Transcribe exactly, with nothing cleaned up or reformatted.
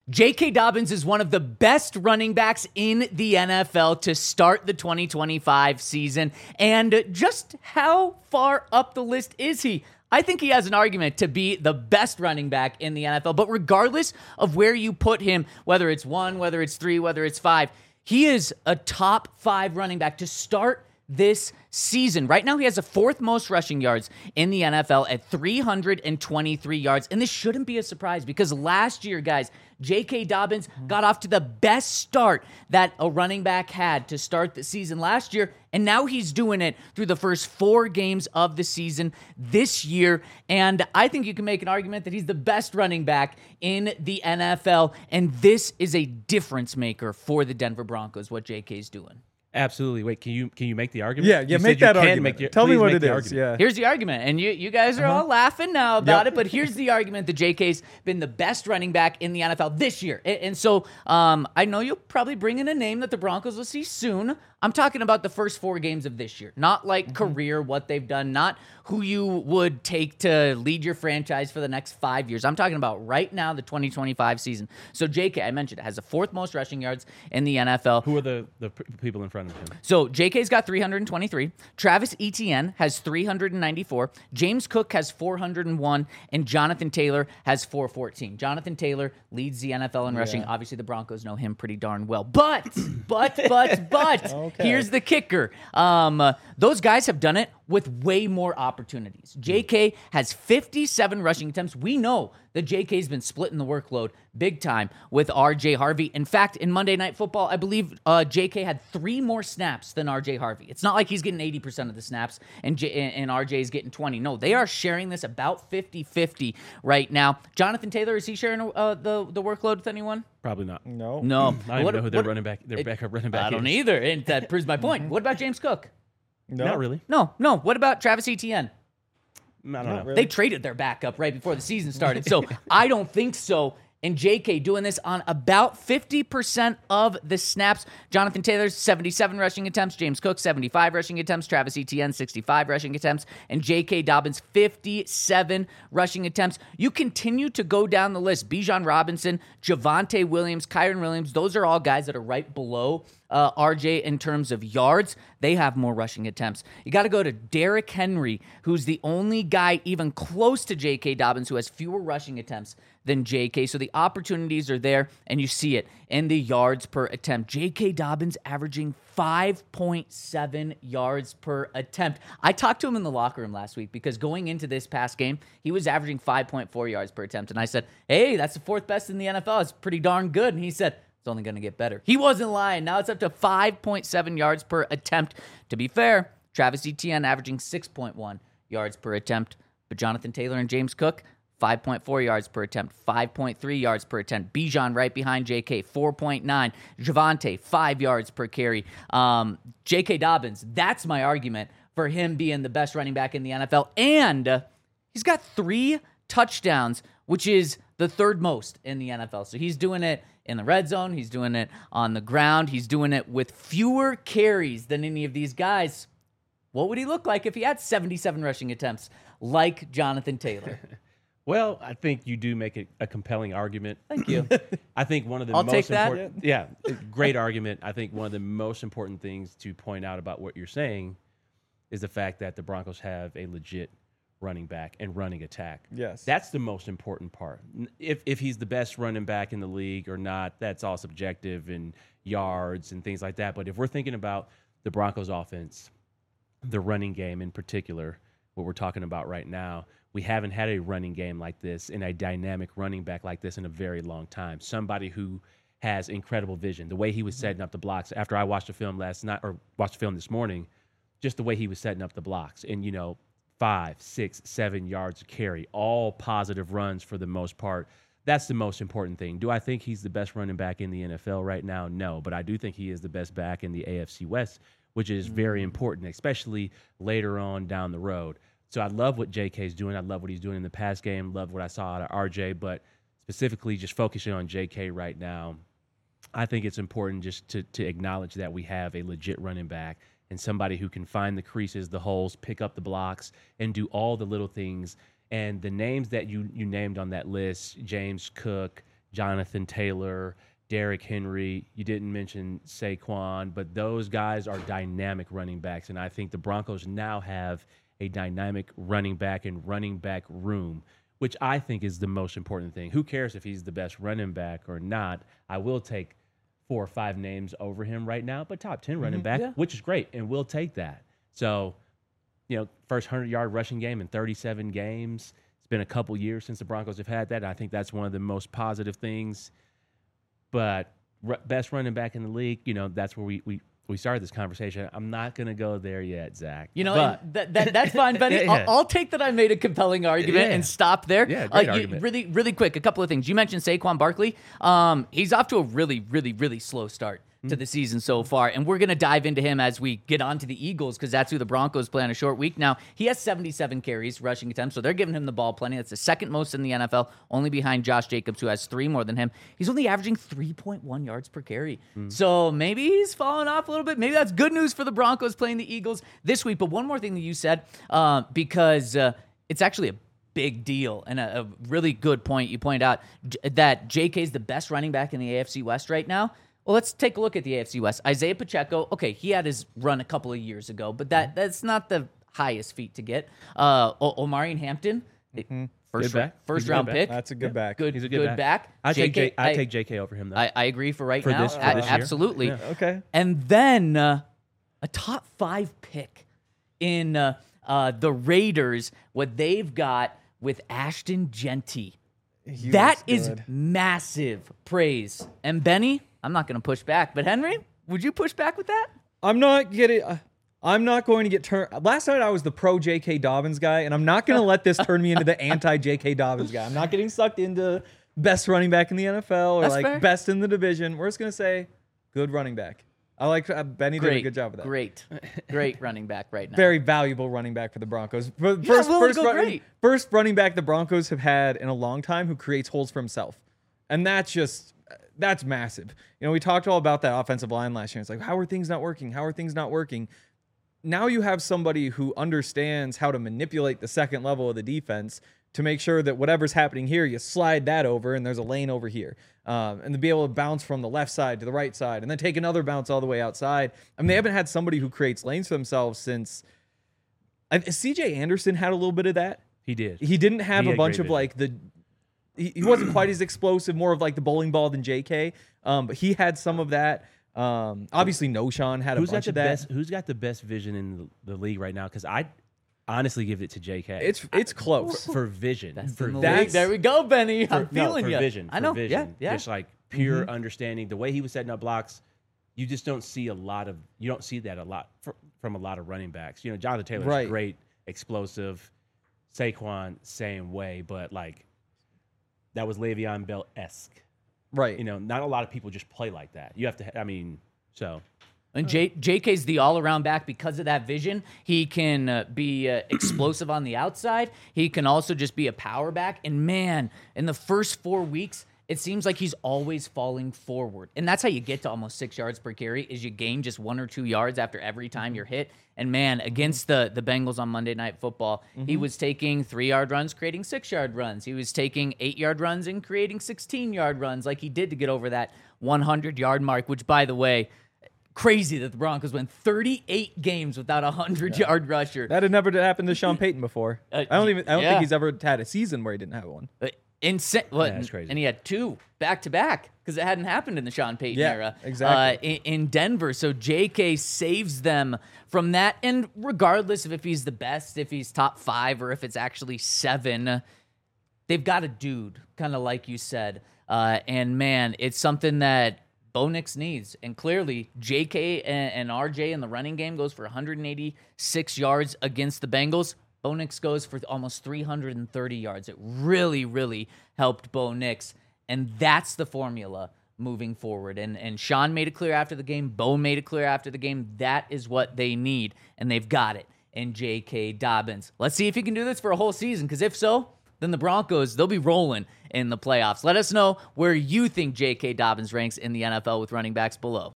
J K. Dobbins is one of the best running backs in the N F L to start the twenty twenty-five season. And just how far up the list is he? I think he has an argument to be the best running back in the N F L. But regardless of where you put him, whether it's one, whether it's three, whether it's five, he is a top five running back to start this season. Right now, he has the fourth most rushing yards in the N F L at three hundred twenty-three yards. And this shouldn't be a surprise because last year, guys, J K. Dobbins got off to the best start that a running back had to start the season last year. And now he's doing it through the first four games of the season this year. And I think you can make an argument that he's the best running back in the N F L. And this is a difference maker for the Denver Broncos, what J K's doing. Absolutely. Wait, can you can you make the argument? Yeah, yeah, you make that argument. Make the, Tell me what it is. Argument. Yeah. Here's the argument, and you you guys are uh-huh. all laughing now about yep. it, but here's the argument that J K's been the best running back in the N F L this year. And, and so um, I know you'll probably bring in a name that the Broncos will see soon. I'm talking about the first four games of this year, not like mm-hmm. career, what they've done, not who you would take to lead your franchise for the next five years. I'm talking about right now, the twenty twenty-five season. So J K, I mentioned, has the fourth most rushing yards in the N F L. Who are the, the people in front of him? So J K's got three hundred twenty-three. Travis Etienne has three hundred ninety-four. James Cook has four hundred one. And Jonathan Taylor has four fourteen. Jonathan Taylor leads the N F L in yeah. rushing. Obviously, the Broncos know him pretty darn well. But, but, but, but, okay. here's the kicker. Um, uh, those guys have done it with way more opportunities. J K has fifty-seven rushing attempts. We know that J K's been splitting the workload big time with R J Harvey. In fact, in Monday Night Football, I believe uh, J K had three more snaps than R J Harvey. It's not like he's getting eighty percent of the snaps and, J- and R J is getting twenty. No, they are sharing this about fifty-fifty right now. Jonathan Taylor, is he sharing uh, the, the workload with anyone? Probably not. No. No. I don't what, even know who their what, running back, their it, backup running back I don't is. either, and that proves my point. What about James Cook? No. Not really. No, no. What about Travis Etienne? I don't Not know. really. They traded their backup right before the season started. So I don't think so. And J K doing this on about fifty percent of the snaps. Jonathan Taylor, seventy-seven rushing attempts. James Cook, seventy-five rushing attempts. Travis Etienne, sixty-five rushing attempts. And J K. Dobbins, fifty-seven rushing attempts. You continue to go down the list. Bijan Robinson, Javonte Williams, Kyron Williams, those are all guys that are right below Uh, R J in terms of yards. They have more rushing attempts. You got to go to Derrick Henry, who's the only guy even close to J K. Dobbins who has fewer rushing attempts than J K. So the opportunities are there, and you see it in the yards per attempt. J K. Dobbins averaging five point seven yards per attempt. I talked to him in the locker room last week because going into this past game, he was averaging five point four yards per attempt. And I said, hey, that's the fourth best in the N F L. It's pretty darn good. And he said, it's only going to get better. He wasn't lying. Now it's up to five point seven yards per attempt. To be fair, Travis Etienne averaging six point one yards per attempt. But Jonathan Taylor and James Cook, five point four yards per attempt, five point three yards per attempt. Bijan right behind J K, four point nine. Javonte, five yards per carry. Um, J K. Dobbins, that's my argument for him being the best running back in the N F L. And uh, he's got three touchdowns, which is the third most in the N F L. So he's doing it in the red zone. He's doing it on the ground. He's doing it with fewer carries than any of these guys. What would he look like if he had seventy-seven rushing attempts like Jonathan Taylor? Well, I think you do make a, a compelling argument. Thank you. I think one of the I'll most take that. important, yeah, great argument. I think one of the most important things to point out about what you're saying is the fact that the Broncos have a legit running back and running attack. Yes. That's the most important part. If if he's the best running back in the league or not, that's all subjective and yards and things like that. But if we're thinking about the Broncos offense, the running game in particular, what we're talking about right now, we haven't had a running game like this and a dynamic running back like this in a very long time. Somebody who has incredible vision. The way he was setting up the blocks after I watched the film last night or watched the film this morning, just the way he was setting up the blocks and, you know, five, six, seven yards of carry, all positive runs for the most part. That's the most important thing. Do I think he's the best running back in the N F L right now? No, but I do think he is the best back in the A F C West, which is very important, especially later on down the road. So I love what J K's doing. I love what he's doing in the pass game. Love what I saw out of R J, but specifically just focusing on J K right now, I think it's important just to, to acknowledge that we have a legit running back and somebody who can find the creases, the holes, pick up the blocks, and do all the little things. And the names that you you named on that list, James Cook, Jonathan Taylor, Derrick Henry. You didn't mention Saquon, but those guys are dynamic running backs, and I think the Broncos now have a dynamic running back and running back room, which I think is the most important thing. Who cares if he's the best running back or not? I will take four or five names over him right now, but top ten running mm-hmm, back, yeah. which is great, and we'll take that. So, you know, first hundred-yard rushing game in thirty-seven games. It's been a couple years since the Broncos have had that, and I think that's one of the most positive things. But r- best running back in the league, you know, that's where we we, we started this conversation. I'm not going to go there yet, Zach. You know, but, that, that that's fine, Benny. yeah, yeah. I'll, I'll take that I made a compelling argument yeah. and stop there. Yeah, great uh, argument. You, really, really quick, a couple of things. You mentioned Saquon Barkley. Um, he's off to a really, really, really slow start to the season so far, and we're going to dive into him as we get on to the Eagles because that's who the Broncos play on a short week. Now, he has seventy-seven carries, rushing attempts, so they're giving him the ball plenty. That's the second most in the N F L, only behind Josh Jacobs, who has three more than him. He's only averaging three point one yards per carry, mm. so maybe he's falling off a little bit. Maybe that's good news for the Broncos playing the Eagles this week. But one more thing that you said, uh, because uh, it's actually a big deal and a, a really good point. You point out j- that J K is the best running back in the A F C West right now. Well, let's take a look at the A F C West. Isaiah Pacheco, okay, he had his run a couple of years ago, but that that's not the highest feat to get. Uh, o- Omarion Hampton, mm-hmm. first, ra- first round pick. That's a good back. Good, He's a good, good back. back. I take J- I I take J K over him though. I, I agree for right for now. This, for A- this year. absolutely. Yeah. Okay. And then uh, a top five pick in uh, uh, the Raiders. What they've got with Ashton Genty. He That was is good. massive praise. And Benny, I'm not going to push back, but Henry, would you push back with that? I'm not getting. Uh, I'm not going to get turned. Last night I was the pro J K. Dobbins guy, and I'm not going to let this turn me into the anti J K. Dobbins guy. I'm not getting sucked into best running back in the N F L or That's like fair. best in the division. We're just going to say good running back. I like uh, Benny Great, did a good job with that. Great, great running back right now. Very valuable running back for the Broncos. For- Yeah, First, willing to first, go running, great. first running back the Broncos have had in a long time who creates holes for himself. And that's just, that's massive. You know, we talked all about that offensive line last year. It's like, how are things not working? How are things not working? Now you have somebody who understands how to manipulate the second level of the defense to make sure that whatever's happening here, you slide that over and there's a lane over here. Um, and to be able to bounce from the left side to the right side and then take another bounce all the way outside. I mean, they haven't had somebody who creates lanes for themselves since I, C J Anderson had a little bit of that. He did. He didn't have He a had bunch great of like the, he, he wasn't quite as explosive, more of like the bowling ball than J K. Um, but he had some of that. Um, obviously, Noshawn had a Who's got bunch the of that. best? Who's got the best vision in the, the league right now? Because I honestly give it to J K. It's it's close. for, for vision. That's for in the that's- league. There we go, Benny. for, I'm feeling no, for you. vision. I know. For vision. Yeah, yeah. Just like pure Mm-hmm. understanding. The way he was setting up blocks, you just don't see a lot of. You don't see that a lot fr- from a lot of running backs. You know, Jonathan Taylor's Right. great, explosive. Saquon, same way, but like that was Le'Veon Bell esque. Right. You know, not a lot of people just play like that. You have to. I mean, so. And J- JK's the all-around back because of that vision. He can uh, be uh, explosive on the outside. He can also just be a power back. And man, in the first four weeks, it seems like he's always falling forward. And that's how you get to almost six yards per carry is you gain just one or two yards after every time you're hit. And man, against the, the Bengals on Monday Night Football, mm-hmm. he was taking three-yard runs, creating six-yard runs. He was taking eight-yard runs and creating sixteen-yard runs like he did to get over that hundred-yard mark, which, by the way, crazy that the Broncos went thirty-eight games without a hundred-yard yeah. rusher. That had never happened to Sean Payton before. Uh, I don't even. I don't yeah. think he's ever had a season where he didn't have one. Uh, Insane. Well, yeah, that's crazy. And he had two back to back because it hadn't happened in the Sean Payton yeah, era. Exactly. Uh, in, in Denver. So J K saves them from that. And regardless of if he's the best, if he's top five, or if it's actually seven, they've got a dude, kind of like you said. Uh, and man, it's something that Bo Nix needs. And clearly, J K and, and R J in the running game goes for one hundred eighty-six yards against the Bengals. Bo Nix goes for almost three hundred thirty yards. It really, really helped Bo Nix. And that's the formula moving forward. And and Sean made it clear after the game. Bo made it clear after the game. That is what they need. And they've got it in J K. Dobbins. Let's see if he can do this for a whole season. Because if so, then the Broncos, they'll be rolling in the playoffs. Let us know where you think J K. Dobbins ranks in the N F L with running backs below.